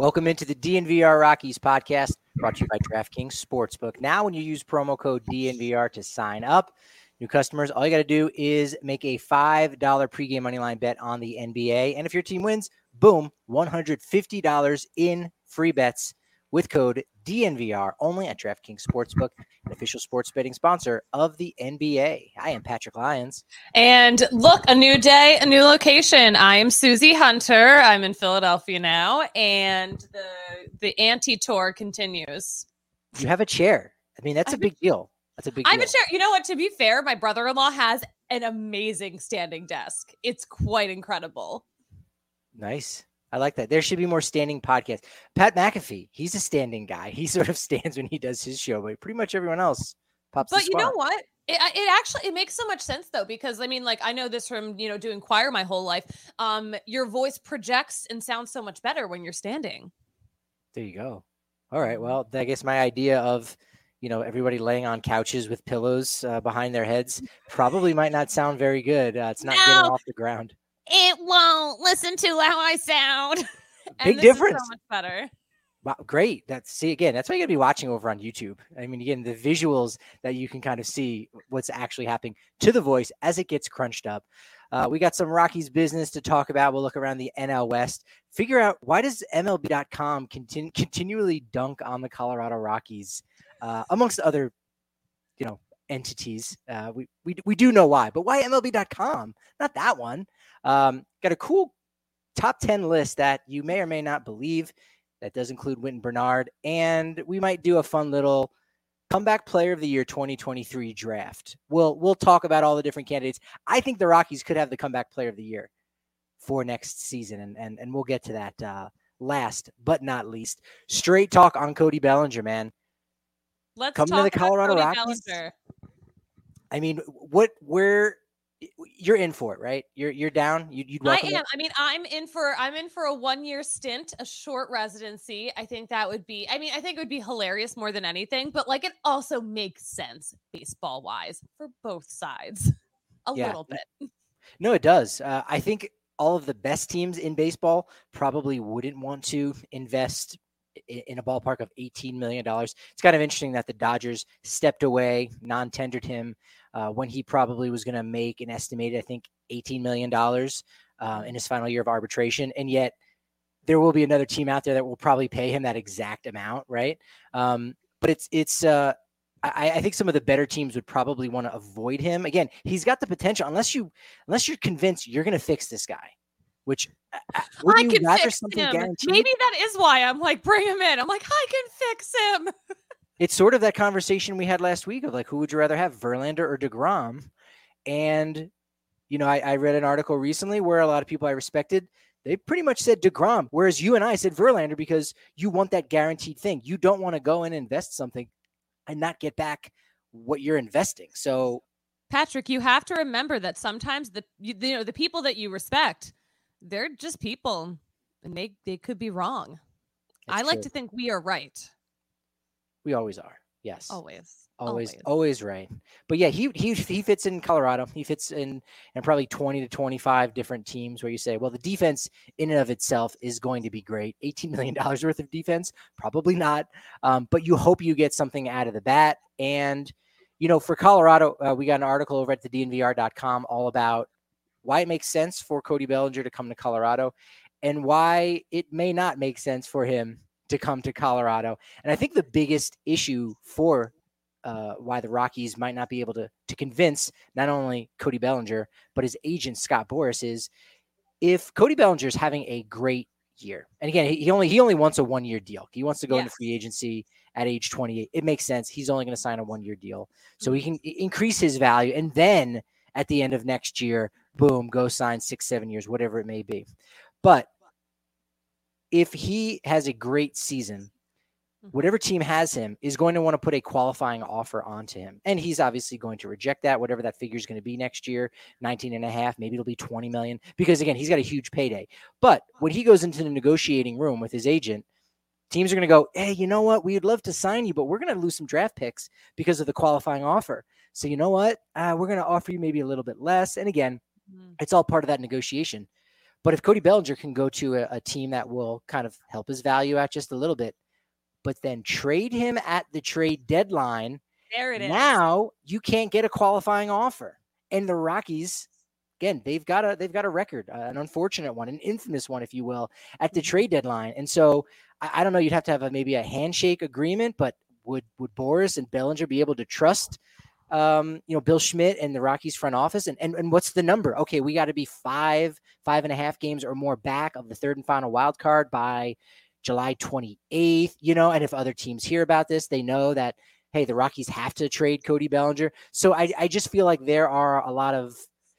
Welcome into the DNVR Rockies podcast, brought to you by DraftKings Sportsbook. Now, when you use promo code DNVR to sign up, new customers, all you got to do is make a $5 pregame moneyline bet on the NBA. And if your team wins, boom, $150 in free bets with code DNVR, only at DraftKings Sportsbook, an official sports betting sponsor of the NBA. I am Patrick Lyons. And look, a new day, a new location. I am Susie Hunter. I'm in Philadelphia now, and the anti-tour continues. You have a chair. I mean, that's a big deal. That's a big deal. I have a chair. You know what? To be fair, my brother-in-law has an amazing standing desk. It's quite incredible. Nice. I like that. There should be more standing podcasts. Pat McAfee, he's a standing guy. He sort of stands when he does his show, but pretty much everyone else pops the But you spot. know what? It makes so much sense though, because I mean, like, I know this from, doing choir my whole life. Your voice projects and sounds so much better when you're standing. There you go. All right. Well, I guess my idea of, everybody laying on couches with pillows behind their heads probably might not sound very good. It's not getting off the ground. It won't. Listen to how I sound. Big difference. Is so much better. Wow, great. That's why you got to be watching over on YouTube. I mean, again, the visuals that you can kind of see what's actually happening to the voice as it gets crunched up. We got some Rockies business to talk about. We'll look around the NL West, figure out why does MLB.com continually dunk on the Colorado Rockies, amongst other, entities. We do know why, but why MLB.com? Not that one. Got a cool top 10 list that you may or may not believe. That does include Wynton Bernard, and we might do a fun little comeback player of the year 2023 draft. We'll talk about all the different candidates. I think the Rockies could have the comeback player of the year for next season, and we'll get to that last but not least. Straight talk on Cody Bellinger, man. Let's come to the Colorado Rockies. Bellinger. I mean, you're in for it, right? You're down. You'd welcome I am. it? I mean, I'm in for a 1-year stint, a short residency. I think that would be. I mean, I think it would be hilarious more than anything. But like, it also makes sense baseball wise for both sides, a little bit. No, it does. I think all of the best teams in baseball probably wouldn't want to invest in a ballpark of $18 million. It's kind of interesting that the Dodgers stepped away, non-tendered him when he probably was going to make an estimated, I think, $18 million in his final year of arbitration. And yet there will be another team out there that will probably pay him that exact amount, right? But I think some of the better teams would probably want to avoid him. Again, he's got the potential, unless you're convinced you're going to fix this guy, which I can fix him. Guaranteed? Maybe that is why I'm like, bring him in. I'm like, I can fix him. It's sort of that conversation we had last week of like, who would you rather have, Verlander or DeGrom? And, I read an article recently where a lot of people I respected, they pretty much said DeGrom, whereas you and I said Verlander because you want that guaranteed thing. You don't want to go and invest something and not get back what you're investing. So, Patrick, you have to remember that sometimes the people that you respect, they're just people, and they could be wrong. I like to think we are right. We always are. Yes. Always right. But yeah, he fits in Colorado. He fits in probably 20 to 25 different teams where you say, well, the defense in and of itself is going to be great. $18 million worth of defense? Probably not. But you hope you get something out of the bat. And, for Colorado, we got an article over at the DNVR.com all about why it makes sense for Cody Bellinger to come to Colorado and why it may not make sense for him to come to Colorado. And I think the biggest issue for why the Rockies might not be able to convince not only Cody Bellinger, but his agent, Scott Boras, is if Cody Bellinger is having a great year. And again, he only wants a 1-year deal. He wants to go into free agency at age 28. It makes sense. He's only going to sign a 1-year deal. So he can increase his value. And then at the end of next year, boom, go sign 6-7 years, whatever it may be. But if he has a great season, whatever team has him is going to want to put a qualifying offer onto him. And he's obviously going to reject that, whatever that figure is going to be next year, 19.5, maybe it'll be 20 million, because again, he's got a huge payday. But when he goes into the negotiating room with his agent, teams are going to go, hey, you know what? We'd love to sign you, but we're going to lose some draft picks because of the qualifying offer. So you know what? We're going to offer you maybe a little bit less. And again, it's all part of that negotiation. But if Cody Bellinger can go to a team that will kind of help his value out just a little bit, but then trade him at the trade deadline, there it is. Now you can't get a qualifying offer. And the Rockies, again, they've got a record, an unfortunate one, an infamous one, if you will, at the trade deadline. And so I don't know, you'd have to have maybe a handshake agreement, but would Boras and Bellinger be able to trust Bill Schmidt and the Rockies front office? And what's the number? Okay, we got to be 5.5 games or more back of the third and final wild card by July 28th, and if other teams hear about this, they know that, hey, the Rockies have to trade Cody Bellinger. So I just feel like there are a lot of,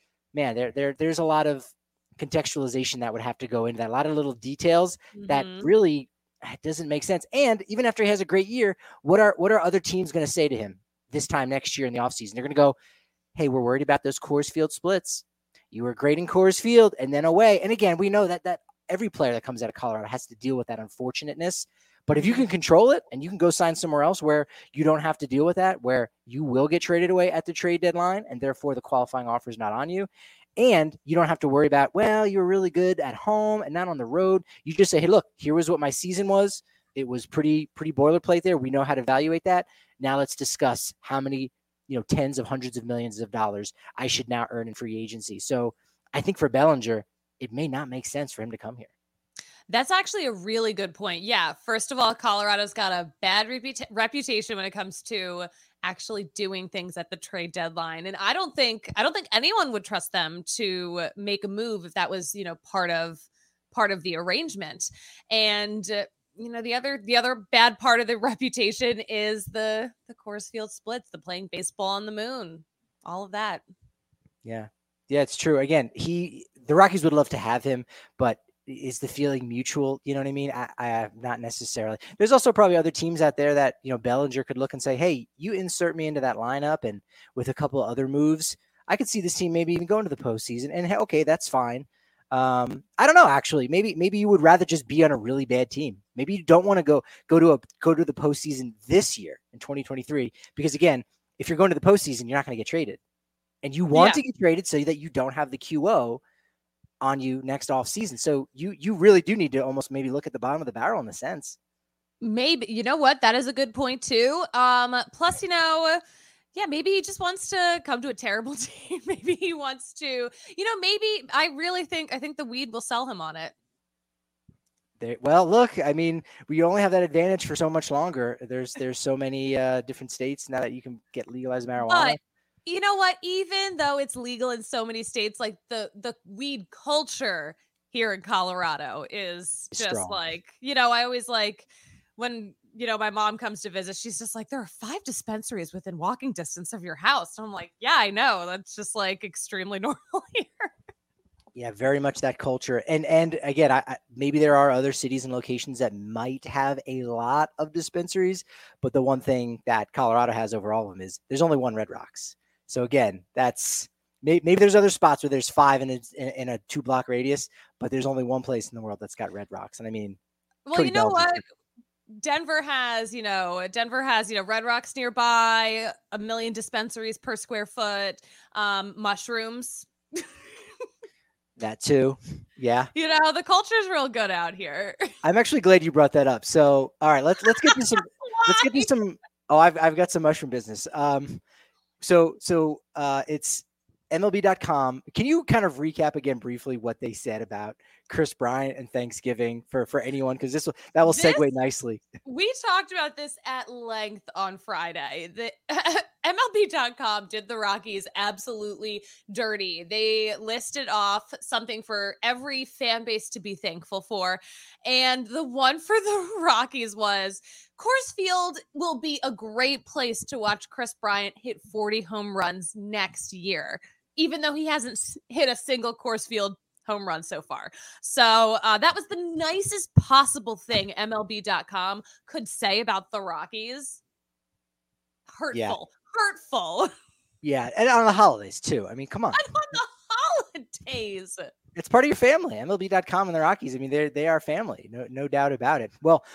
there's a lot of contextualization that would have to go into that, a lot of little details that really doesn't make sense. And even after he has a great year, what are other teams going to say to him this time next year in the offseason? They're going to go, hey, we're worried about those Coors Field splits. You were great in Coors Field and then away. And again, we know that every player that comes out of Colorado has to deal with that unfortunateness. But if you can control it and you can go sign somewhere else where you don't have to deal with that, where you will get traded away at the trade deadline and therefore the qualifying offer is not on you, and you don't have to worry about, well, you were really good at home and not on the road. You just say, hey, look, here was what my season was. It was pretty boilerplate there. We know how to evaluate that. Now let's discuss how many, tens of hundreds of millions of dollars I should now earn in free agency. So I think for Bellinger, it may not make sense for him to come here. That's actually a really good point. Yeah. First of all, Colorado's got a bad reputation when it comes to actually doing things at the trade deadline. And I don't think anyone would trust them to make a move if that was, part of the arrangement. And, the other bad part of the reputation is the Coors Field splits, the playing baseball on the moon, all of that. Yeah. Yeah, it's true. Again, the Rockies would love to have him, but is the feeling mutual? You know what I mean? I not necessarily. There's also probably other teams out there that, Bellinger could look and say, hey, you insert me into that lineup. And with a couple of other moves, I could see this team maybe even going to the postseason. And hey, okay, that's fine. I don't know, actually, maybe you would rather just be on a really bad team. Maybe you don't want to go to the postseason this year in 2023, because again, if you're going to the postseason, you're not going to get traded, and you want to get traded so that you don't have the QO on you next off season. So you really do need to almost maybe look at the bottom of the barrel in a sense. Maybe, you know what? That is a good point too. Plus, maybe he just wants to come to a terrible team. Maybe he wants to, maybe I think the weed will sell him on it. Well, look, I mean, we only have that advantage for so much longer. There's so many different states now that you can get legalized marijuana. But you know what? Even though it's legal in so many states, like the weed culture here in Colorado is just strong. Like, I always like when, my mom comes to visit, she's just like, there are 5 dispensaries within walking distance of your house. And I'm like, yeah, I know. That's just like extremely normal here. Yeah, very much that culture. And again, I maybe there are other cities and locations that might have a lot of dispensaries, but the one thing that Colorado has over all of them is there's only one Red Rocks. So again, that's maybe there's other spots where there's 5 in a 2-block radius, but there's only one place in the world that's got Red Rocks. And I mean, well, you know what? Denver has Red Rocks nearby, 1 million dispensaries per square foot, mushrooms. That too. Yeah. The culture is real good out here. I'm actually glad you brought that up. So, all right, let's get to some, let's get to some, I've got some mushroom business. So it's MLB.com. Can you kind of recap again briefly what they said about Kris Bryant and Thanksgiving for anyone? Because that will segue nicely. We talked about this at length on Friday. The MLB.com did the Rockies absolutely dirty. They listed off something for every fan base to be thankful for. And the one for the Rockies was Coors Field will be a great place to watch Kris Bryant hit 40 home runs next year, even though he hasn't hit a single Coors Field home run so far. So that was the nicest possible thing MLB.com could say about the Rockies. Hurtful. Yeah, and on the holidays too. I mean, come on. And on the holidays. It's part of your family. MLB.com and the Rockies. I mean, they are family. No doubt about it. Well,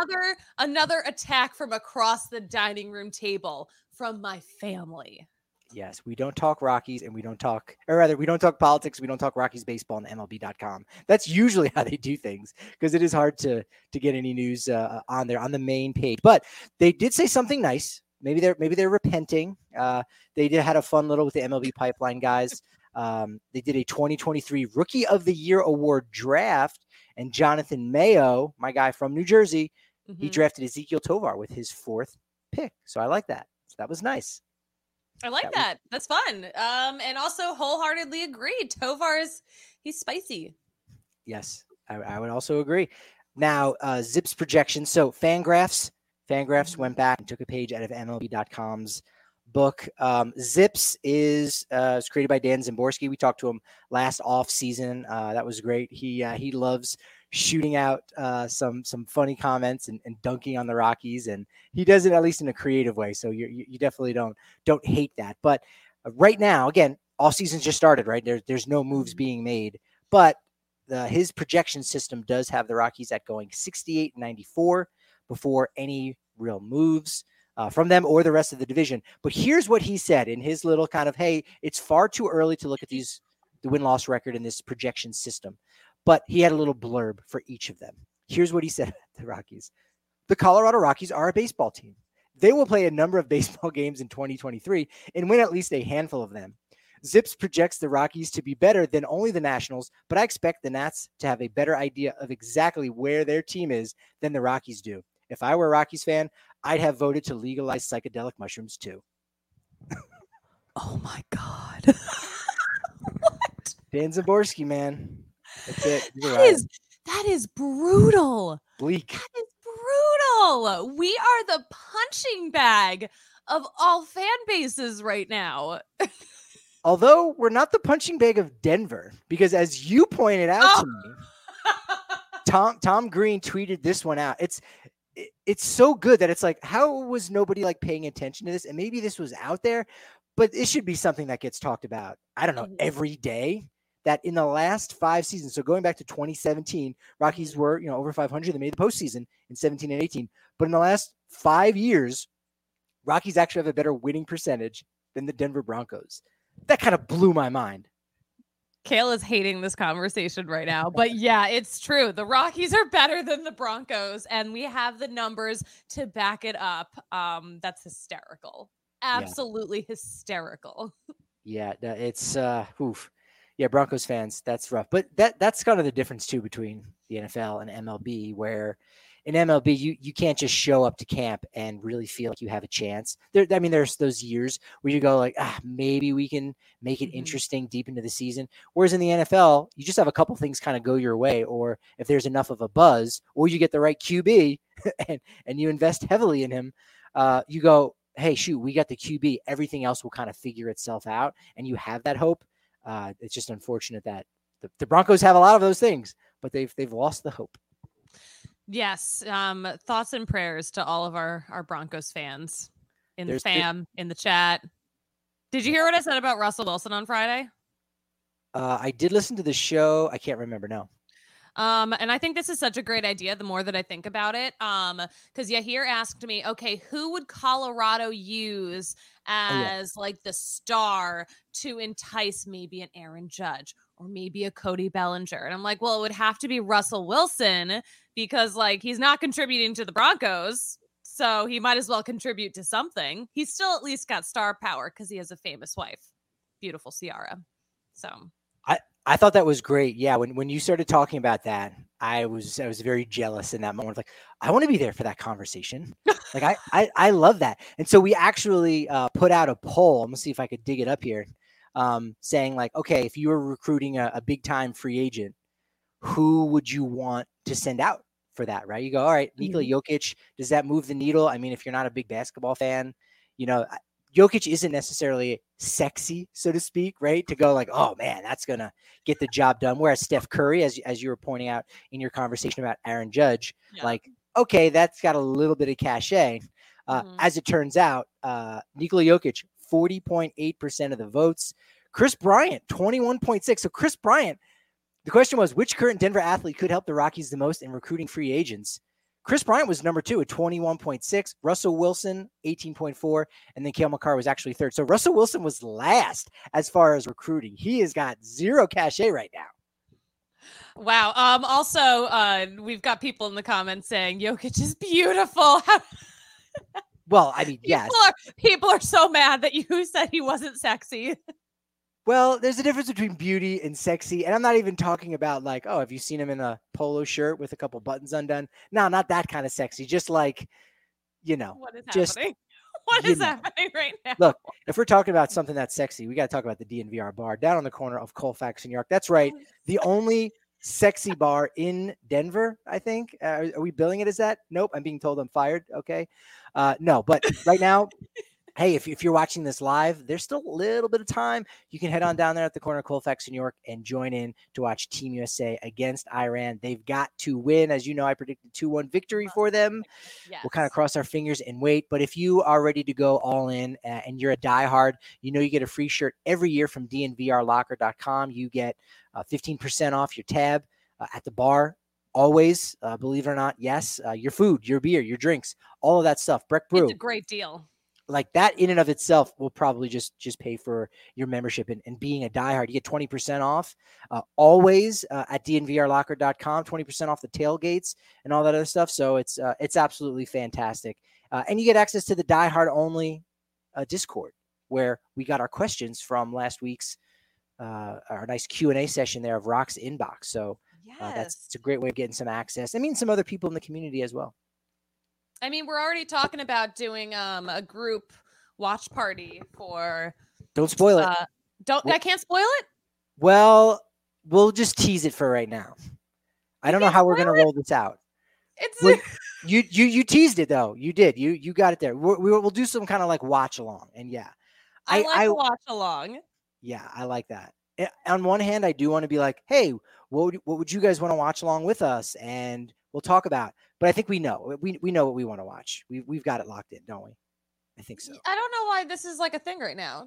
another attack from across the dining room table from my family. Yes, we don't talk Rockies and we don't talk politics. We don't talk Rockies baseball on MLB.com. That's usually how they do things because it is hard to get any news on there on the main page. But they did say something nice. Maybe they're repenting. They had a fun little with the MLB pipeline guys. They did a 2023 Rookie of the Year award draft, and Jonathan Mayo, my guy from New Jersey, he drafted Ezequiel Tovar with his 4th pick. So I like that. So that was nice. I like that. That's fun. And also wholeheartedly agree. He's spicy. Yes, I would also agree. Now, Zips projections. So Fangraphs went back and took a page out of MLB.com's book. Zips is created by Dan Szymborski. We talked to him last off season. That was great. He loves shooting out some funny comments and dunking on the Rockies, and he does it at least in a creative way. So you definitely don't hate that. But right now, again, off season's just started, right? There's no moves being made, but his projection system does have the Rockies at going 68-94 before any real moves from them or the rest of the division. But here's what he said in his little kind of, hey, it's far too early to look at the win-loss record in this projection system. But he had a little blurb for each of them. Here's what he said about the Rockies. The Colorado Rockies are a baseball team. They will play a number of baseball games in 2023 and win at least a handful of them. Zips projects the Rockies to be better than only the Nationals, but I expect the Nats to have a better idea of exactly where their team is than the Rockies do. If I were a Rockies fan, I'd have voted to legalize psychedelic mushrooms too. Oh my God. What? Dan Szymborski, man. That's it. That is brutal. Bleak. That is brutal. We are the punching bag of all fan bases right now. Although we're not the punching bag of Denver, because as you pointed out to me, Tom Green tweeted this one out. It's so good that it's like, how was nobody like paying attention to this? And maybe this was out there, but it should be something that gets talked about, I don't know, every day. That in the last 5 seasons, so going back to 2017, Rockies were, over 500. They made the postseason in 17 and 18. But in the last 5 years, Rockies actually have a better winning percentage than the Denver Broncos. That kind of blew my mind. Kale is hating this conversation right now, but yeah, it's true. The Rockies are better than the Broncos, and we have the numbers to back it up. That's hysterical. Absolutely hysterical. Yeah, it's oof. Yeah, Broncos fans, that's rough. But that's kind of the difference too between the NFL and MLB, where in MLB you can't just show up to camp and really feel like you have a chance. There's those years where you go like, maybe we can make it interesting deep into the season. Whereas in the NFL, you just have a couple things kind of go your way, or if there's enough of a buzz, or you get the right QB and you invest heavily in him, you go, hey, shoot, we got the QB. Everything else will kind of figure itself out, and you have that hope. It's just unfortunate that the Broncos have a lot of those things, but they've lost the hope. Yes. Thoughts and prayers to all of our Broncos fans in the chat. Did you hear what I said about Russell Wilson on Friday? I did listen to the show. I can't remember. No. And I think this is such a great idea the more that I think about it. Because Yahir asked me, okay, who would Colorado use as like the star to entice maybe an Aaron Judge or maybe a Cody Bellinger? And I'm like, well, it would have to be Russell Wilson because like he's not contributing to the Broncos. So he might as well contribute to something. He's still at least got star power because he has a famous wife, beautiful Ciara. So I thought that was great. Yeah, when you started talking about that, I was very jealous in that moment. Like, I want to be there for that conversation. Like, I love that. And so we actually put out a poll. I'm gonna see if I could dig it up here, saying like, okay, if you were recruiting a big time free agent, who would you want to send out for that? Right? You go, all right, Nikola Jokic. Does that move the needle? I mean, if you're not a big basketball fan, Jokic isn't necessarily sexy, so to speak, right? To go like, oh man, that's going to get the job done. Whereas Steph Curry, as you were pointing out in your conversation about Aaron Judge, like, okay, that's got a little bit of cachet. As it turns out, Nikola Jokic, 40.8% of the votes. Chris Bryant, 21.6%. So Chris Bryant, the question was, which current Denver athlete could help the Rockies the most in recruiting free agents? Chris Bryant was number 2 at 21.6. Russell Wilson, 18.4. And then Cale Makar was actually third. So Russell Wilson was last as far as recruiting. He has got zero cachet right now. Wow. Also, we've got people in the comments saying Jokic is beautiful. Well, I mean, yes. People are so mad that you said he wasn't sexy. Well, there's a difference between beauty and sexy. And I'm not even talking about like, oh, have you seen him in a polo shirt with a couple buttons undone? No, not that kind of sexy. Just like, What is just happening? What is happening right now? Look, if we're talking about something that's sexy, we got to talk about the DNVR bar down on the corner of Colfax and York. That's right. The only sexy bar in Denver, I think. Are we billing it as that? Nope. I'm being told I'm fired. Okay. No, but right now, hey, if you're watching this live, there's still a little bit of time. You can head on down there at the corner of Colfax and York and join in to watch Team USA against Iran. They've got to win. As you know, I predicted 2-1 victory for them. Yes. We'll kind of cross our fingers and wait. But if you are ready to go all in and you're a diehard, you get a free shirt every year from dnvrlocker.com. You get 15% off your tab at the bar. Always, believe it or not, yes, your food, your beer, your drinks, all of that stuff. Breck Brew. It's a great deal. Like that in and of itself will probably just pay for your membership and being a diehard. You get 20% off always at dnvrlocker.com, 20% off the tailgates and all that other stuff. So it's absolutely fantastic. And you get access to the diehard only Discord where we got our questions from last week's our nice Q&A session there of Rock's Inbox. So it's a great way of getting some access. I mean, some other people in the community as well. I mean, we're already talking about doing a group watch party for. Don't spoil it. I can't spoil it. Well, we'll just tease it for right now. I don't know how we're gonna roll this out. You teased it though. You did. You got it there. We'll do some kind of like watch along, and yeah, I watch along. Yeah, I like that. On one hand, I do want to be like, hey, what would you guys want to watch along with us? And we'll talk about. But I think we know. We know what we want to watch. We've got it locked in, don't we? I think so. I don't know why this is like a thing right now.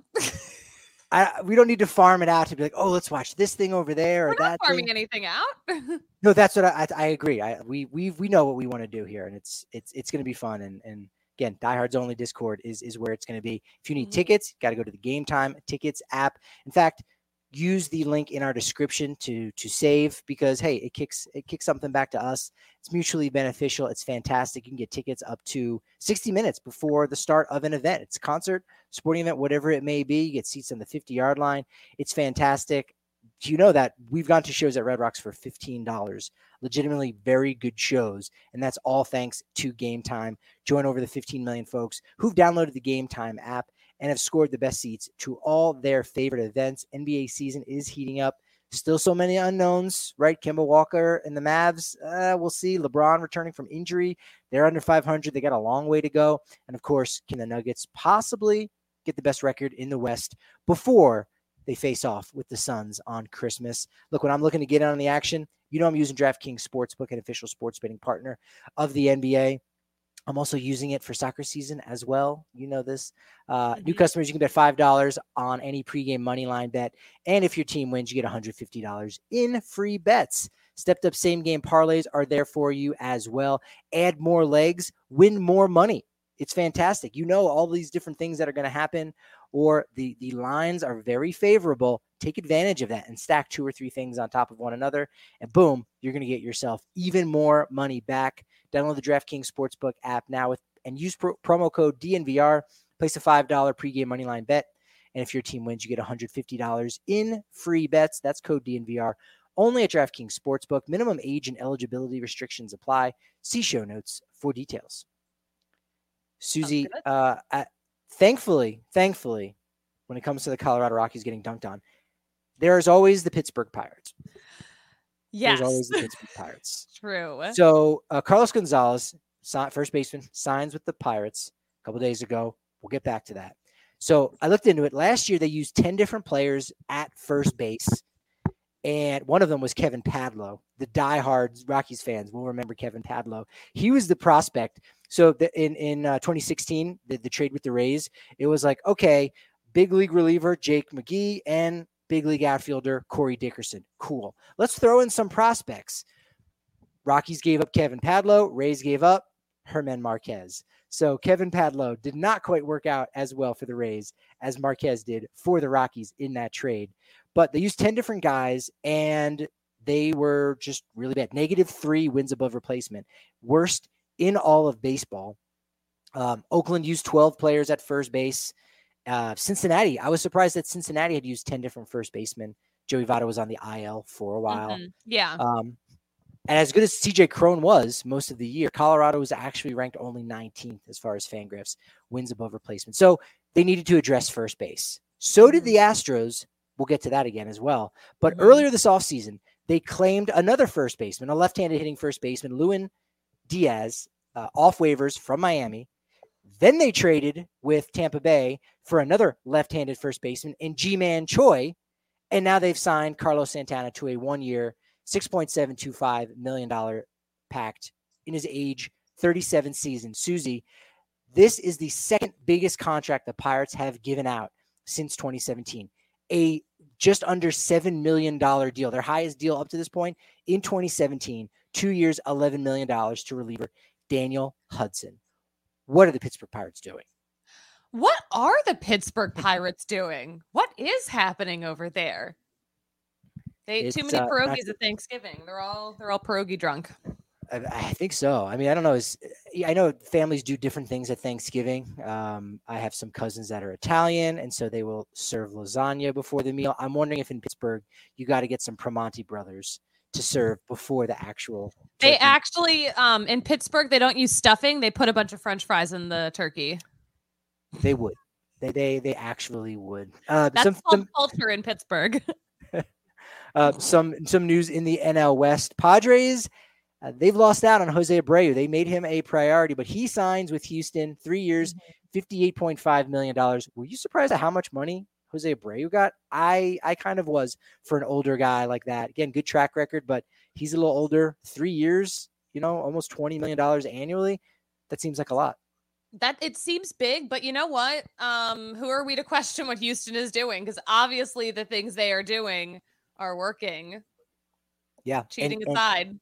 We don't need to farm it out to be like, oh, let's watch this thing over there. We're not farming anything out. No, that's what I agree. We know what we want to do here, and it's going to be fun. And again, Diehards Only Discord is where it's going to be. If you need tickets, got to go to the Game Time Tickets app. In fact, use the link in our description to save because, hey, it kicks something back to us. It's mutually beneficial. It's fantastic. You can get tickets up to 60 minutes before the start of an event. It's a concert, sporting event, whatever it may be. You get seats on the 50-yard line. It's fantastic. Do you know that we've gone to shows at Red Rocks for $15? Legitimately very good shows. And that's all thanks to Game Time. Join over the 15 million folks who've downloaded the Game Time app and have scored the best seats to all their favorite events. NBA season is heating up. Still so many unknowns, right? Kemba Walker and the Mavs, we'll see. LeBron returning from injury. They're under 500. They got a long way to go. And, of course, can the Nuggets possibly get the best record in the West before they face off with the Suns on Christmas? Look, when I'm looking to get in on the action, I'm using DraftKings Sportsbook, an official sports betting partner of the NBA. I'm also using it for soccer season as well. You know this. New customers, you can bet $5 on any pregame money line bet. And if your team wins, you get $150 in free bets. Stepped up same game parlays are there for you as well. Add more legs, win more money. It's fantastic. All these different things that are going to happen, or the lines are very favorable. Take advantage of that and stack 2 or 3 things on top of one another. And boom, you're going to get yourself even more money back. Download the DraftKings Sportsbook app now and use promo code DNVR. Place a $5 pregame moneyline bet. And if your team wins, you get $150 in free bets. That's code DNVR. Only at DraftKings Sportsbook. Minimum age and eligibility restrictions apply. See show notes for details. Susie, thankfully, when it comes to the Colorado Rockies getting dunked on, there's always the Pittsburgh Pirates. Yes. There's always the Pittsburgh Pirates. True. So Carlos Gonzalez, first baseman, signs with the Pirates a couple days ago. We'll get back to that. So I looked into it. Last year, they used 10 different players at first base. And one of them was Kevin Padlo. The diehard Rockies fans will remember Kevin Padlo. He was the prospect. So in 2016, the trade with the Rays, it was like, okay, big league reliever Jake McGee and big league outfielder Corey Dickerson. Cool. Let's throw in some prospects. Rockies gave up Kevin Padlo. Rays gave up Germán Marquez. So Kevin Padlo did not quite work out as well for the Rays as Marquez did for the Rockies in that trade. But they used 10 different guys, and they were just really bad. -3 wins above replacement. Worst in all of baseball. Oakland used 12 players at first base. Cincinnati, I was surprised that Cincinnati had used 10 different first basemen. Joey Votto was on the IL for a while. Yeah. And as good as CJ Cron was most of the year, Colorado was actually ranked only 19th as far as Fangraphs wins above replacement. So they needed to address first base. So did the Astros. We'll get to that again as well. But earlier this offseason, they claimed another first baseman, a left-handed hitting first baseman, Lewin Diaz, off waivers from Miami. Then they traded with Tampa Bay for another left-handed first baseman in Ji-Man Choi. And now they've signed Carlos Santana to a 1-year, $6.725 million pact in his age 37 season. Susie, this is the second biggest contract the Pirates have given out since 2017. A just under $7 million deal, their highest deal up to this point in 2017, 2 years, $11 million to reliever Daniel Hudson. What are the Pittsburgh Pirates doing? What are the Pittsburgh Pirates doing? What is happening over there? They ate too many pierogies at Thanksgiving. They're all pierogi drunk. I think so. I mean, I don't know. I know families do different things at Thanksgiving. I have some cousins that are Italian, and so they will serve lasagna before the meal. I'm wondering if in Pittsburgh you got to get some Primanti brothers to serve before the actual turkey. They actually, in Pittsburgh, they don't use stuffing. They put a bunch of French fries in the turkey. They would. They actually would. That's some culture in Pittsburgh. Some news in the NL West. Padres, they've lost out on Jose Abreu. They made him a priority, but he signs with Houston, 3 years, $58.5 million. Were you surprised at how much money Jose Abreu got? I kind of was for an older guy like that. Again, good track record, but he's a little older. 3 years, almost $20 million annually. That seems like a lot. That it seems big, but you know what? Who are we to question what Houston is doing? Because obviously the things they are doing are working. Yeah. Cheating aside,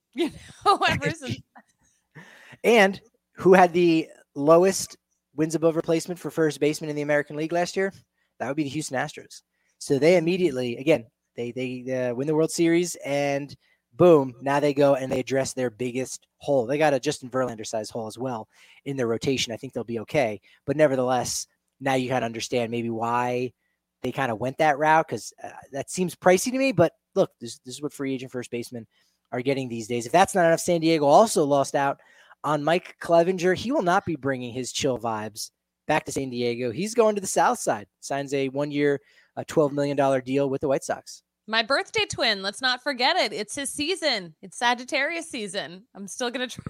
And who had the lowest wins above replacement for first baseman in the American League last year? That would be the Houston Astros. So they immediately, again, they win the World Series, and boom, now they go and they address their biggest hole. They got a Justin Verlander-sized hole as well in their rotation. I think they'll be okay. But nevertheless, now you kind of understand maybe why they kind of went that route, because that seems pricey to me. But look, this is what free agent first basemen are getting these days. If that's not enough, San Diego also lost out on Mike Clevinger. He will not be bringing his chill vibes back to San Diego. He's going to the South Side, signs a 1-year, $12 million deal with the White Sox. My birthday twin, let's not forget it. It's his season. It's Sagittarius season. I'm still going to try.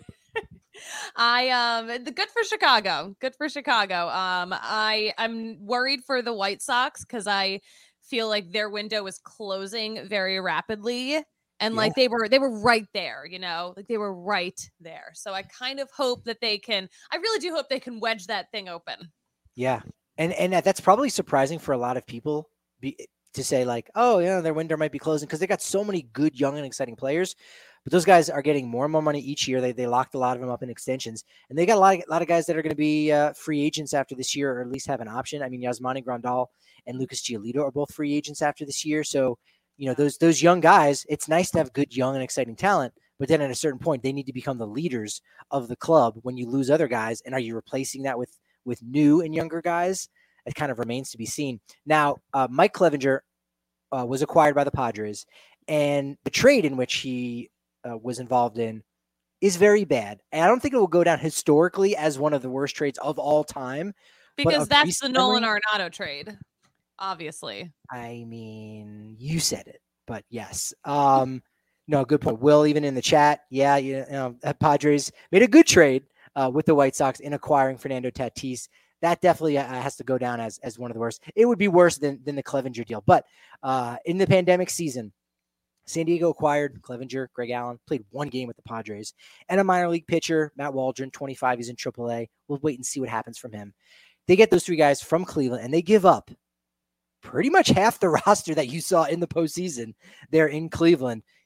Good for Chicago. Good for Chicago. I'm worried for the White Sox because I feel like their window is closing very rapidly. And like they were right there, like they were right there. So I kind of hope that I really do hope they can wedge that thing open. Yeah. And that's probably surprising for a lot of people to say like, oh, their window might be closing, because they got so many good, young and exciting players. But those guys are getting more and more money each year. They locked a lot of them up in extensions, and they got a lot of guys that are going to be free agents after this year, or at least have an option. I mean, Yasmani Grandal and Lucas Giolito are both free agents after this year. So, those young guys, it's nice to have good, young and exciting talent, but then at a certain point, they need to become the leaders of the club when you lose other guys. And are you replacing that with new and younger guys? It kind of remains to be seen. Now, Mike Clevinger was acquired by the Padres, and the trade in which he was involved in is very bad. And I don't think it will go down historically as one of the worst trades of all time. Because that's the Nolan Arenado trade, obviously. I mean, you said it, but yes. No, good point. Will, even in the chat, Padres made a good trade with the White Sox in acquiring Fernando Tatis. That definitely has to go down as one of the worst. It would be worse than the Clevinger deal. But in the pandemic season, San Diego acquired Clevinger, Greg Allen, played one game with the Padres, and a minor league pitcher, Matt Waldron, 25. He's in AAA. We'll wait and see what happens from him. They get those three guys from Cleveland, and they give up pretty much half the roster that you saw in the postseason there in Cleveland.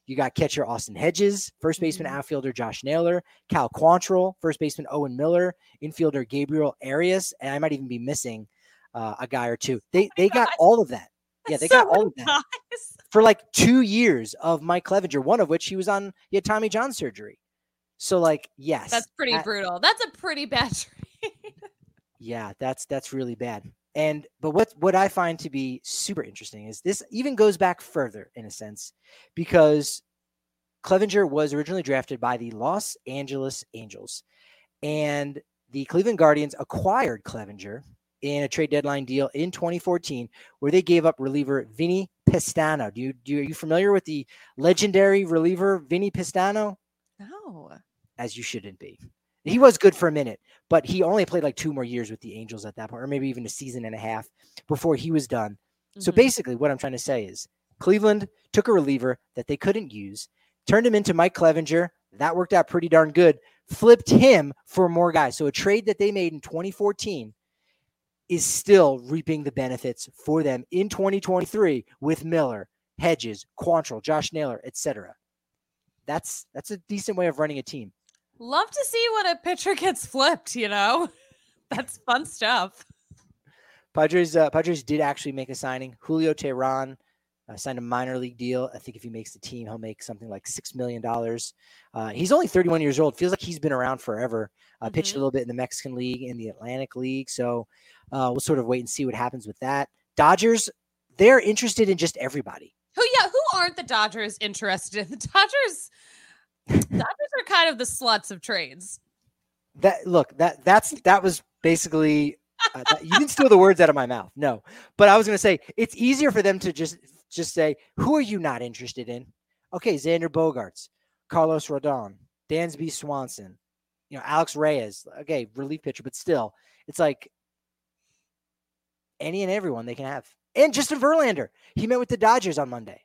You got catcher Austin Hedges, first baseman Mhm. outfielder Josh Naylor, Cal Quantrill, first baseman Owen Miller, infielder Gabriel Arias, and I might even be missing a guy or two. They got Guys, all of that. Yeah, they so got all many of that guys. for like 2 years of Mike Clevenger, one of which he had Tommy John surgery. So like, yes, That's pretty brutal. That's a pretty bad trade. yeah, that's really bad. But what I find to be super interesting is this even goes back further in a sense, because Clevenger was originally drafted by the Los Angeles Angels, and the Cleveland Guardians acquired Clevenger in a trade deadline deal in 2014, where they gave up reliever Vinny Pestano. Are you familiar with the legendary reliever Vinny Pestano? No. As you shouldn't be. He was good for a minute, but he only played like 2 more years with the Angels at that point, or maybe even a season and a half before he was done. So basically, what I'm trying to say is Cleveland took a reliever that they couldn't use, turned him into Mike Clevenger. That worked out pretty darn good. Flipped him for more guys. So a trade that they made in 2014 is still reaping the benefits for them in 2023 with Miller, Hedges, Quantrill, Josh Naylor, etc. That's a decent way of running a team. Love to see when a pitcher gets flipped, you know? That's fun stuff. Padres did actually make a signing. Julio Teheran signed a minor league deal. I think if he makes the team, he'll make something like $6 million. He's only 31 years old. Feels like he's been around forever. Pitched a little bit in the Mexican League, in the Atlantic League. So we'll sort of wait and see what happens with that. Dodgers, they're interested in just everybody. Who aren't the Dodgers interested in? The Dodgers are kind of the sluts of trades. That was basically you didn't steal the words out of my mouth. No, but I was going to say it's easier for them to just say, who are you not interested in? Okay, Xander Bogaerts, Carlos Rodon, Dansby Swanson, Alex Reyes. Okay, relief pitcher, but still, it's like any and everyone they can have. And Justin Verlander, he met with the Dodgers on Monday.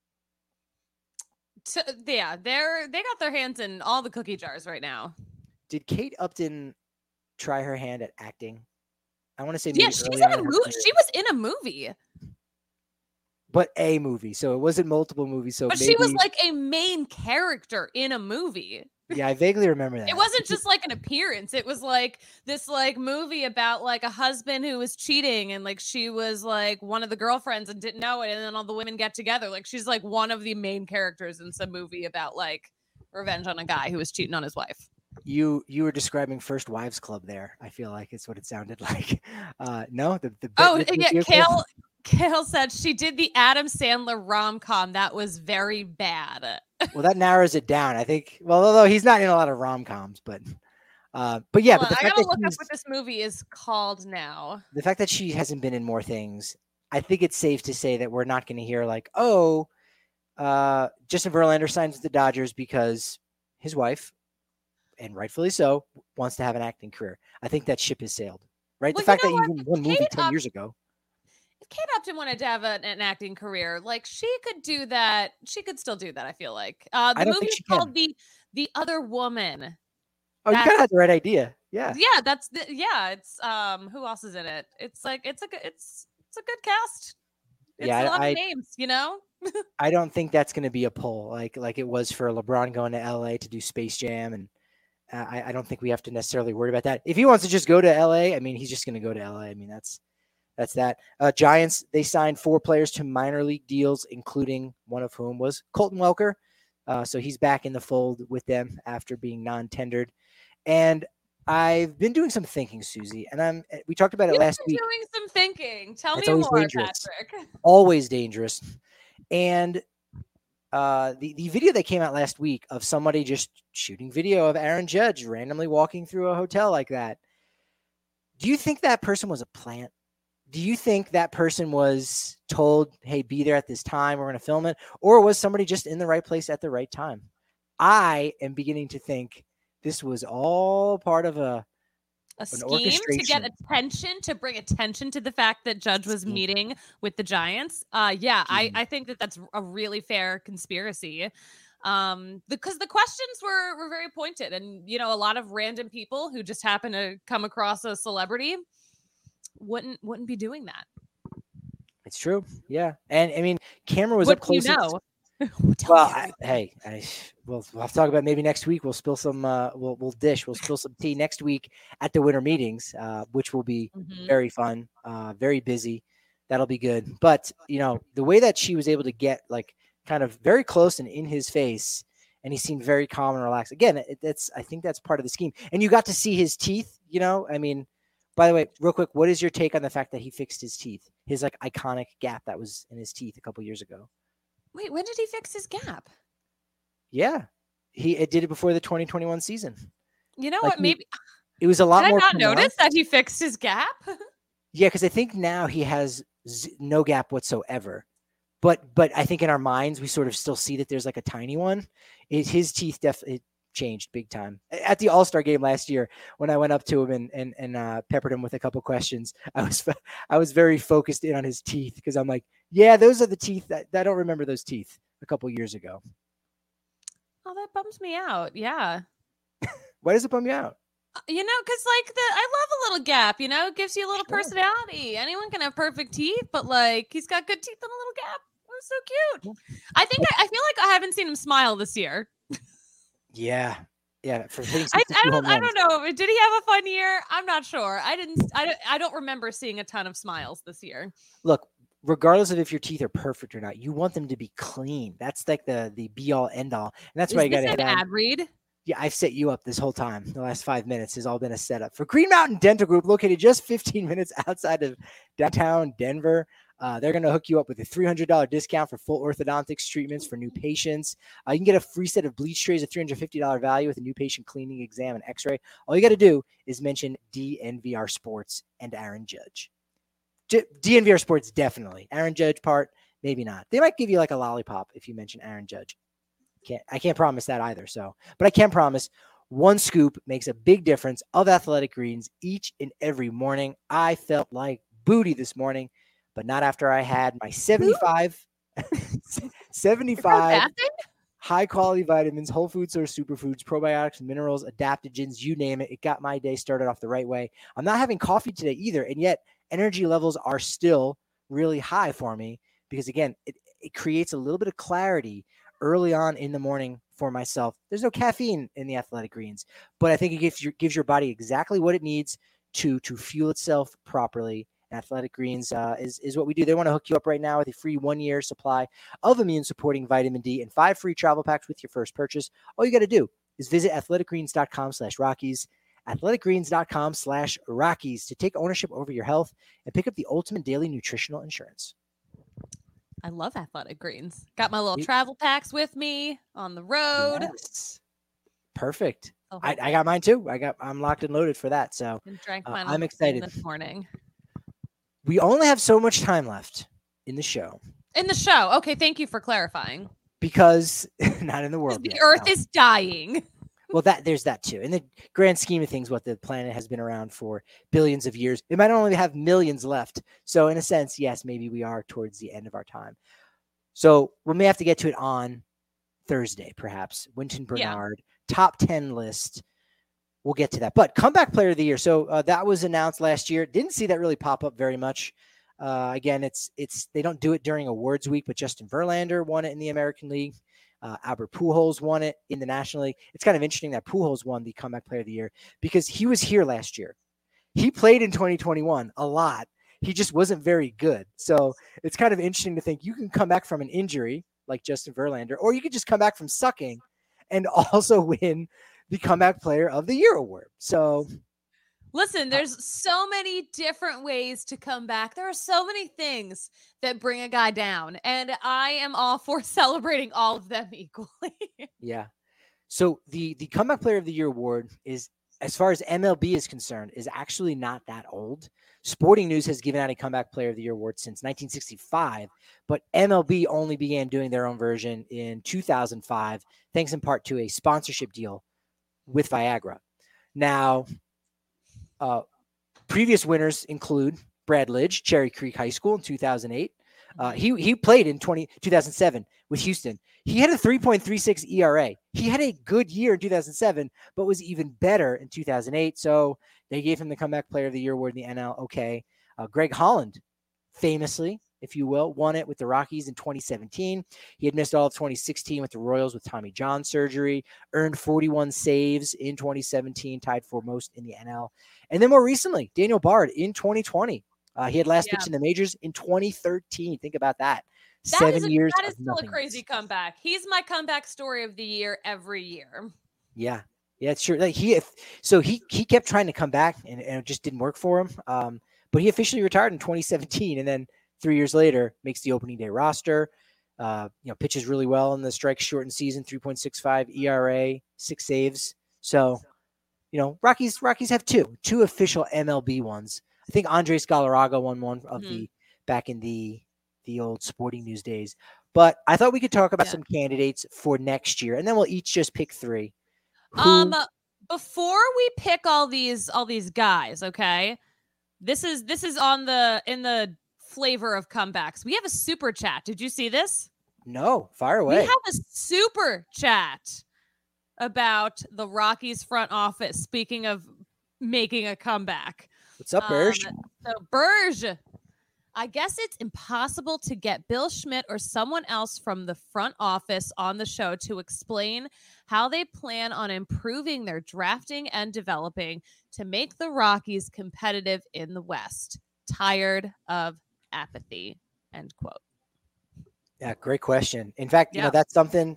They got their hands in all the cookie jars right now. Did Kate Upton try her hand at acting? I want to say she's in a movie. She was in a movie, but a movie, so it wasn't multiple movies. So, but she was like a main character in a movie. Yeah, I vaguely remember that. It wasn't just like an appearance. It was like this like movie about like a husband who was cheating, and like she was like one of the girlfriends and didn't know it, and then all the women get together. Like she's like one of the main characters in some movie about like revenge on a guy who was cheating on his wife. You were describing First Wives Club there. I feel like it's what it sounded like. No, Kale said she did the Adam Sandler rom-com. That was very bad. Well, that narrows it down. I think. Well, although he's not in a lot of rom-coms, but yeah. But the I gotta look up what this movie is called now. The fact that she hasn't been in more things, I think it's safe to say that we're not going to hear like, Justin Verlander signs with the Dodgers because his wife, and rightfully so, wants to have an acting career. I think that ship has sailed. Right? Well, the fact that you even won movie 10 years ago. If Kate Upton wanted to have an acting career, like she could do that. She could still do that, I feel like. The movie is called The Other Woman. Oh, you kind of had the right idea. Yeah. Yeah, it's who else is in it? It's like it's a good cast. It's a lot of names, I don't think that's going to be a pull like it was for LeBron going to LA to do Space Jam, and I don't think we have to necessarily worry about that. If he wants to just go to LA, I mean, he's just going to go to LA. I mean, that's that. Giants, they signed 4 players to minor league deals, including one of whom was Colton Welker. So he's back in the fold with them after being non-tendered. And I've been doing some thinking, Susie, and we talked about it last week. Doing some thinking. Tell me more, dangerous. Patrick. Always dangerous. And the video that came out last week of somebody just shooting video of Aaron Judge randomly walking through a hotel like that. Do you think that person was a plant? Do you think that person was told, hey, be there at this time, we're going to film it? Or was somebody just in the right place at the right time? I am beginning to think this was all part of a scheme to get attention, to bring attention to the fact that Judge was meeting with the Giants. I think that's a really fair conspiracy. Because the questions were very pointed, and a lot of random people who just happen to come across a celebrity wouldn't be doing that. It's true. Yeah. And I mean, camera was up close. Well, we'll have to talk about maybe next week. We'll spill some. We'll spill some tea next week at the winter meetings, which will be very fun, very busy. That'll be good. But the way that she was able to get like kind of very close and in his face, and he seemed very calm and relaxed. Again, I think that's part of the scheme. And you got to see his teeth. I mean, by the way, real quick, what is your take on the fact that he fixed his teeth? His like iconic gap that was in his teeth a couple years ago. Wait, when did he fix his gap? Yeah, he did it before the 2021 season. You know what? Maybe it was a lot more. Did I not notice that he fixed his gap? Yeah, because I think now he has no gap whatsoever. But I think in our minds we sort of still see that there's like a tiny one. His teeth definitely changed big time at the All-Star game last year when I went up to him and peppered him with a couple questions. I was very focused in on his teeth because I'm like, yeah, those are the teeth that I don't remember those teeth a couple years ago. Oh, that bums me out. Yeah. Why does it bum you out? Because like I love a little gap. It gives you a little personality. Anyone can have perfect teeth, but like he's got good teeth and a little gap. Oh, so cute. I feel like I haven't seen him smile this year. Yeah. For I don't know. Did he have a fun year? I'm not sure. I don't remember seeing a ton of smiles this year. Look, regardless of if your teeth are perfect or not, you want them to be clean. That's like the be all end all. And that's why you got to head ad read. Yeah, I've set you up this whole time. The last 5 minutes has all been a setup for Green Mountain Dental Group, located just 15 minutes outside of downtown Denver. They're going to hook you up with a $300 discount for full orthodontics treatments for new patients. You can get a free set of bleach trays, a $350 value with a new patient cleaning exam and x-ray. All you got to do is mention DNVR Sports and Aaron Judge. DNVR Sports, definitely. Aaron Judge part, maybe not. They might give you like a lollipop if you mention Aaron Judge. I can't promise that either. But I can promise one scoop makes a big difference of Athletic Greens each and every morning. I felt like booty this morning, but not after I had my 75 high quality vitamins, whole food source superfoods, probiotics, minerals, adaptogens, you name it. It got my day started off the right way. I'm not having coffee today either. And yet energy levels are still really high for me because again, it creates a little bit of clarity early on in the morning for myself. There's no caffeine in the Athletic Greens, but I think it gives your body exactly what it needs to fuel itself properly. And Athletic Greens is what we do. They want to hook you up right now with a free 1-year supply of immune-supporting vitamin D and 5 free travel packs with your first purchase. All you got to do is visit athleticgreens.com/Rockies, athleticgreens.com/Rockies to take ownership over your health and pick up the ultimate daily nutritional insurance. I love Athletic Greens. Got my little travel packs with me on the road. Yes. Perfect. I got mine too. I'm locked and loaded for that. So I'm excited this morning. We only have so much time left in the show. Okay. Thank you for clarifying. Because not in the world. The Earth is dying. Well, there's that too. In the grand scheme of things, what the planet has been around for billions of years, it might only have millions left. So in a sense, yes, maybe we are towards the end of our time. So we may have to get to it on Thursday, perhaps. Wynton Bernard, top 10 list. We'll get to that. But comeback player of the year. So that was announced last year. Didn't see that really pop up very much. Again, it's they don't do it during awards week, but Justin Verlander won it in the American League. Albert Pujols won it in the National League. It's kind of interesting that Pujols won the comeback player of the year because he was here last year. He played in 2021 a lot. He just wasn't very good. So it's kind of interesting to think you can come back from an injury like Justin Verlander, or you could just come back from sucking and also win the comeback player of the year award. So listen, there's so many different ways to come back. There are so many things that bring a guy down, and I am all for celebrating all of them equally. Yeah. So the comeback player of the year award is, as far as MLB is concerned, is actually not that old. Sporting News has given out a comeback player of the year award since 1965, but MLB only began doing their own version in 2005, thanks in part to a sponsorship deal with Viagra. Now, previous winners include Brad Lidge, Cherry Creek High School in 2008. He played in 2007 with Houston. He had a 3.36 ERA. He had a good year in 2007, but was even better in 2008. So they gave him the comeback player of the year award in the NL. Okay. Greg Holland, famously if you will, won it with the Rockies in 2017. He had missed all of 2016 with the Royals with Tommy John surgery, earned 41 saves in 2017, tied for most in the NL. And then more recently, Daniel Bard in 2020. He had last pitched in the majors in 2013. Think about that. 7 years. That is still a crazy comeback. He's my comeback story of the year every year. Yeah. Yeah, it's true. Like he kept trying to come back and it just didn't work for him. But he officially retired in 2017 and then 3 years later makes the opening day roster. Pitches really well in the strike shortened season, 3.65 ERA, 6 saves. So, Rockies have two official MLB ones. I think Andres Galarraga won one of the back in the old Sporting News days. But I thought we could talk about some candidates for next year, and then we'll each just pick 3. Before we pick all these guys, okay? This is in the flavor of comebacks. We have a super chat. Did you see this? No, fire away. We have a super chat about the Rockies front office. Speaking of making a comeback. What's up, Berge? So Berge, I guess it's impossible to get Bill Schmidt or someone else from the front office on the show to explain how they plan on improving their drafting and developing to make the Rockies competitive in the West. Tired of apathy, end quote. Yeah, great question. In fact, that's something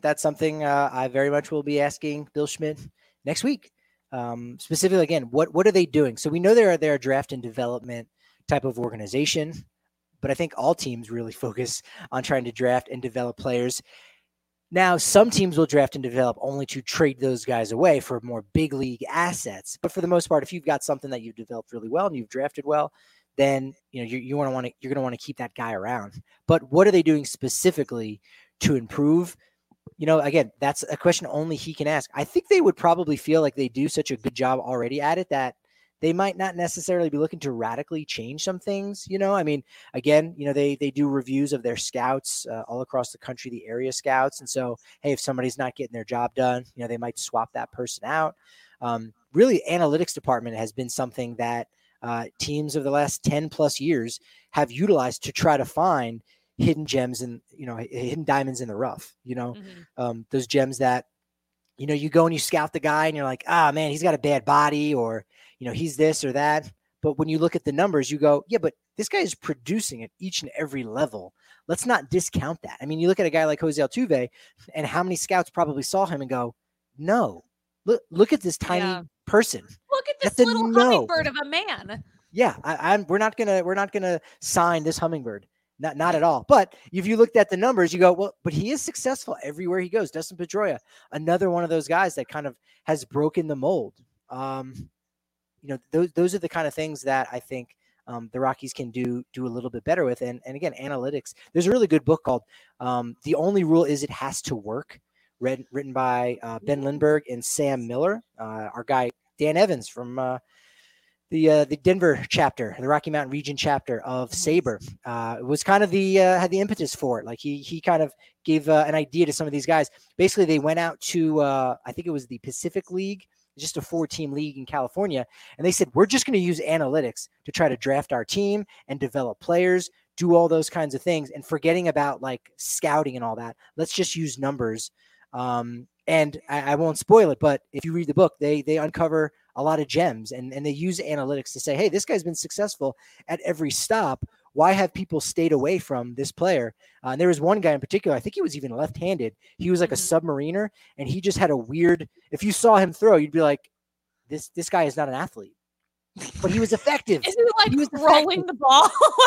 I very much will be asking Bill Schmidt next week. Specifically, again, what are they doing? So we know they're a draft and development type of organization, but I think all teams really focus on trying to draft and develop players. Now, some teams will draft and develop only to trade those guys away for more big league assets. But for the most part, if you've got something that you've developed really well and you've drafted well, then you're going to want to keep that guy around. But what are they doing specifically to improve? Again, that's a question only he can ask. I think they would probably feel like they do such a good job already at it that they might not necessarily be looking to radically change some things. Again, they do reviews of their scouts all across the country, the area scouts. And so, hey, if somebody's not getting their job done, they might swap that person out. Really, analytics department has been something that teams of the last 10 plus years have utilized to try to find hidden gems and, hidden diamonds in the rough, those gems that, you go and you scout the guy and you're like, man, he's got a bad body or, he's this or that. But when you look at the numbers, you go, yeah, but this guy is producing at each and every level. Let's not discount that. I mean, you look at a guy like Jose Altuve and how many scouts probably saw him and go, no, look at this tiny person. Look at this little hummingbird of a man. Yeah, we're not gonna sign this hummingbird. Not at all. But if you looked at the numbers, you go, well, but he is successful everywhere he goes. Dustin Pedroia, another one of those guys that kind of has broken the mold. Those are the kind of things that I think the Rockies can do a little bit better with. And again, analytics. There's a really good book called The Only Rule Is It Has to Work, written by Ben Lindbergh and Sam Miller. Our guy Dan Evans from the Denver chapter, the Rocky Mountain region chapter of SABR, it was kind of had the impetus for it. Like he kind of gave an idea to some of these guys. Basically, they went out to, I think it was the Pacific League, just a 4-team league in California. And they said, we're just going to use analytics to try to draft our team and develop players, do all those kinds of things. And forgetting about like scouting and all that, let's just use numbers. And I won't spoil it, but if you read the book, they uncover a lot of gems and they use analytics to say, hey, this guy's been successful at every stop. Why have people stayed away from this player? And there was one guy in particular, I think he was even left-handed. He was like a submariner, and he just had a weird, if you saw him throw, you'd be like, this guy is not an athlete. But he was effective. Is he like rolling the ball?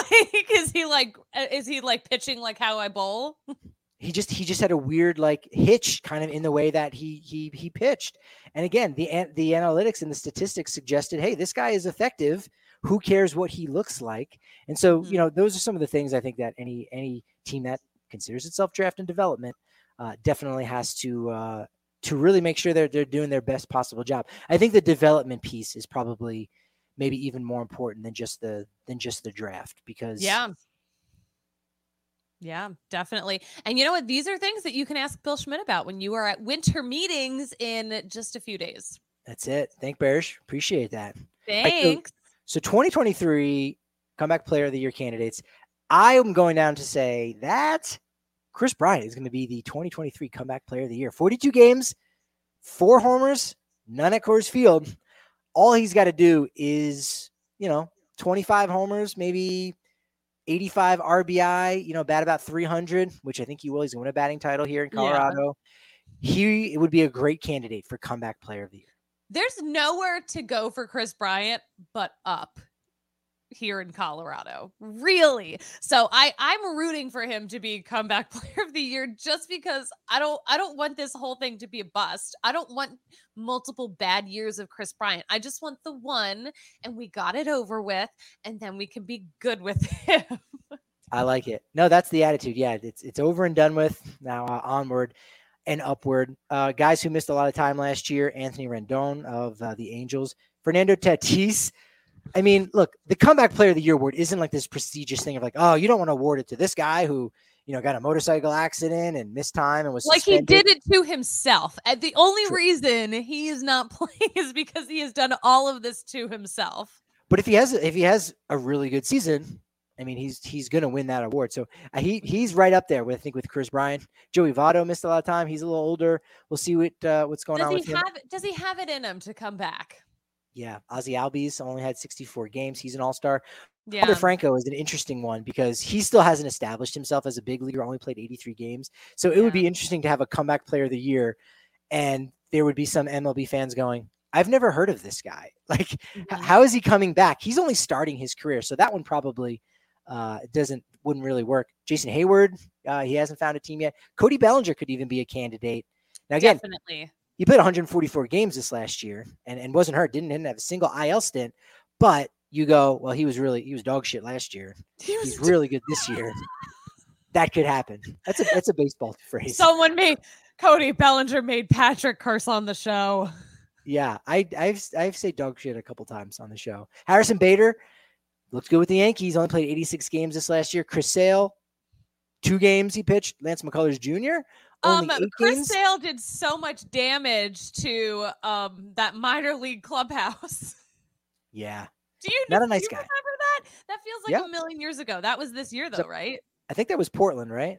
Is he like pitching like how I bowl? He just had a weird like hitch kind of in the way that he pitched. And again, the analytics and the statistics suggested, hey, this guy is effective. Who cares what he looks like? And so, those are some of the things I think that any team that considers itself draft and development definitely has to really make sure they're doing their best possible job. I think the development piece is probably maybe even more important than just the draft, because Yeah, definitely. And you know what? These are things that you can ask Bill Schmidt about when you are at winter meetings in just a few days. That's it. Thank Bearish. Appreciate that. Thanks. So 2023 Comeback Player of the Year candidates. I am going down to say that Chris Bryant is going to be the 2023 Comeback Player of the Year. 42 games, 4 homers, none at Coors Field. All he's got to do is, 25 homers, maybe 85 RBI, bat about 300, which I think he will. He's going to win a batting title here in Colorado. Yeah. He would be a great candidate for Comeback Player of the Year. There's nowhere to go for Chris Bryant but up here in Colorado, really. So I'm rooting for him to be Comeback Player of the Year, just because I don't want this whole thing to be a bust. I don't want multiple bad years of Chris Bryant. I just want the one, and we got it over with, and then we can be good with him. I like it. No, that's the attitude. Yeah, it's over and done with. Now onward and upward. Guys who missed a lot of time last year: Anthony Rendon of the Angels, Fernando Tatis. I mean, look, the Comeback Player of the Year award isn't like this prestigious thing of like, oh, you don't want to award it to this guy who, got a motorcycle accident and missed time and was like suspended. He did it to himself. And the only reason he is not playing is because he has done all of this to himself. But if he has a really good season, I mean, he's going to win that award. So he's right up there with, I think, with Chris Bryant. Joey Votto missed a lot of time. He's a little older. We'll see what's going on with him. Does he have it in him to come back? Yeah, Ozzy Albies only had 64 games. He's an all-star. Yeah. Wander Franco is an interesting one because he still hasn't established himself as a big leaguer, only played 83 games. So it would be interesting to have a Comeback Player of the Year, and there would be some MLB fans going, I've never heard of this guy. Like, how is he coming back? He's only starting his career. So that one probably wouldn't really work. Jason Hayward, he hasn't found a team yet. Cody Bellinger could even be a candidate. Now, again, definitely. He played 144 games this last year and wasn't hurt. Didn't have a single IL stint. But you go, well, he was dog shit last year. He's really good this year. That could happen. That's a baseball phrase. Cody Bellinger made Patrick curse on the show. Yeah, I've said dog shit a couple times on the show. Harrison Bader looks good with the Yankees. Only played 86 games this last year. Chris Sale, 2 games he pitched. Lance McCullers Jr. Chris Sale did so much damage to that minor league clubhouse. Yeah. Do you not a nice guy? Remember that? That feels like a million years ago. That was this year, though, right? I think that was Portland, right?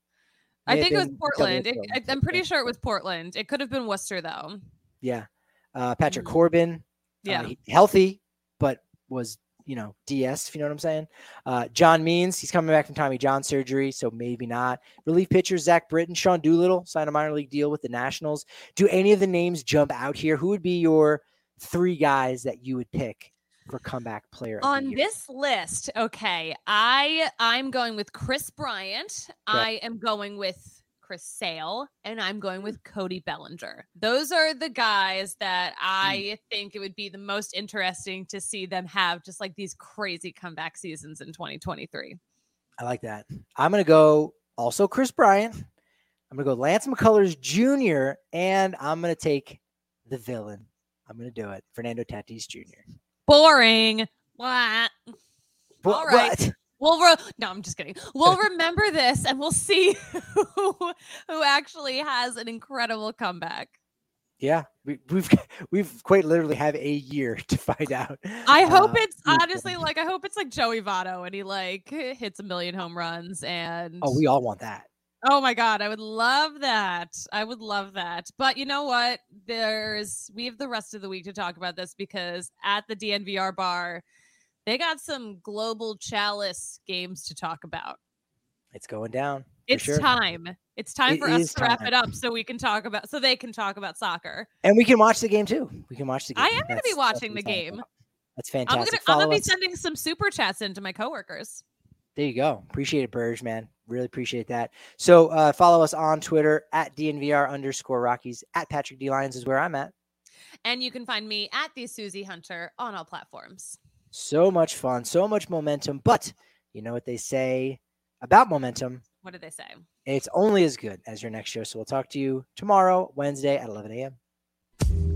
I think it was Portland. I'm pretty sure it was Portland. It could have been Worcester, though. Yeah. Patrick Corbin. Yeah. Healthy, but was DS, if you know what I'm saying. John Means, he's coming back from Tommy John surgery, so maybe not. Relief pitchers, Zach Britton, Sean Doolittle signed a minor league deal with the Nationals. Do any of the names jump out here? Who would be your 3 guys that you would pick for Comeback Player of the Year? On this list, okay, I'm going with Chris Bryant. Okay. I am going with Chris Sale, and I'm going with Cody Bellinger. Those are the guys that I think it would be the most interesting to see them have just like these crazy comeback seasons in 2023. I like that. I'm going to go also Chris Bryant. I'm going to go Lance McCullers Jr., and I'm going to take the villain. I'm going to do it. Fernando Tatis Jr. Boring. What? All right. What? No, I'm just kidding. We'll remember this, and we'll see who actually has an incredible comeback. Yeah, we've quite literally have a year to find out. I hope it's honestly I hope it's like Joey Votto, and he hits 1 million home runs. And we all want that. Oh my God, I would love that. But you know what? We have the rest of the week to talk about this, because at the DNVR bar, they got some Global Chalice games to talk about. It's going down. It's time. It's time for us to wrap it up so they can talk about soccer. And we can watch the game too. I am going to be watching the game. That's fantastic. I'm going to be sending some super chats into my coworkers. There you go. Appreciate it, Burge, man. Really appreciate that. So follow us on Twitter at DNVR_Rockies. At Patrick D. Lyons is where I'm at. And you can find me at the Susie Hunter on all platforms. So much fun, so much momentum. But you know what they say about momentum? What did they say? It's only as good as your next show. So we'll talk to you tomorrow, Wednesday at 11 a.m.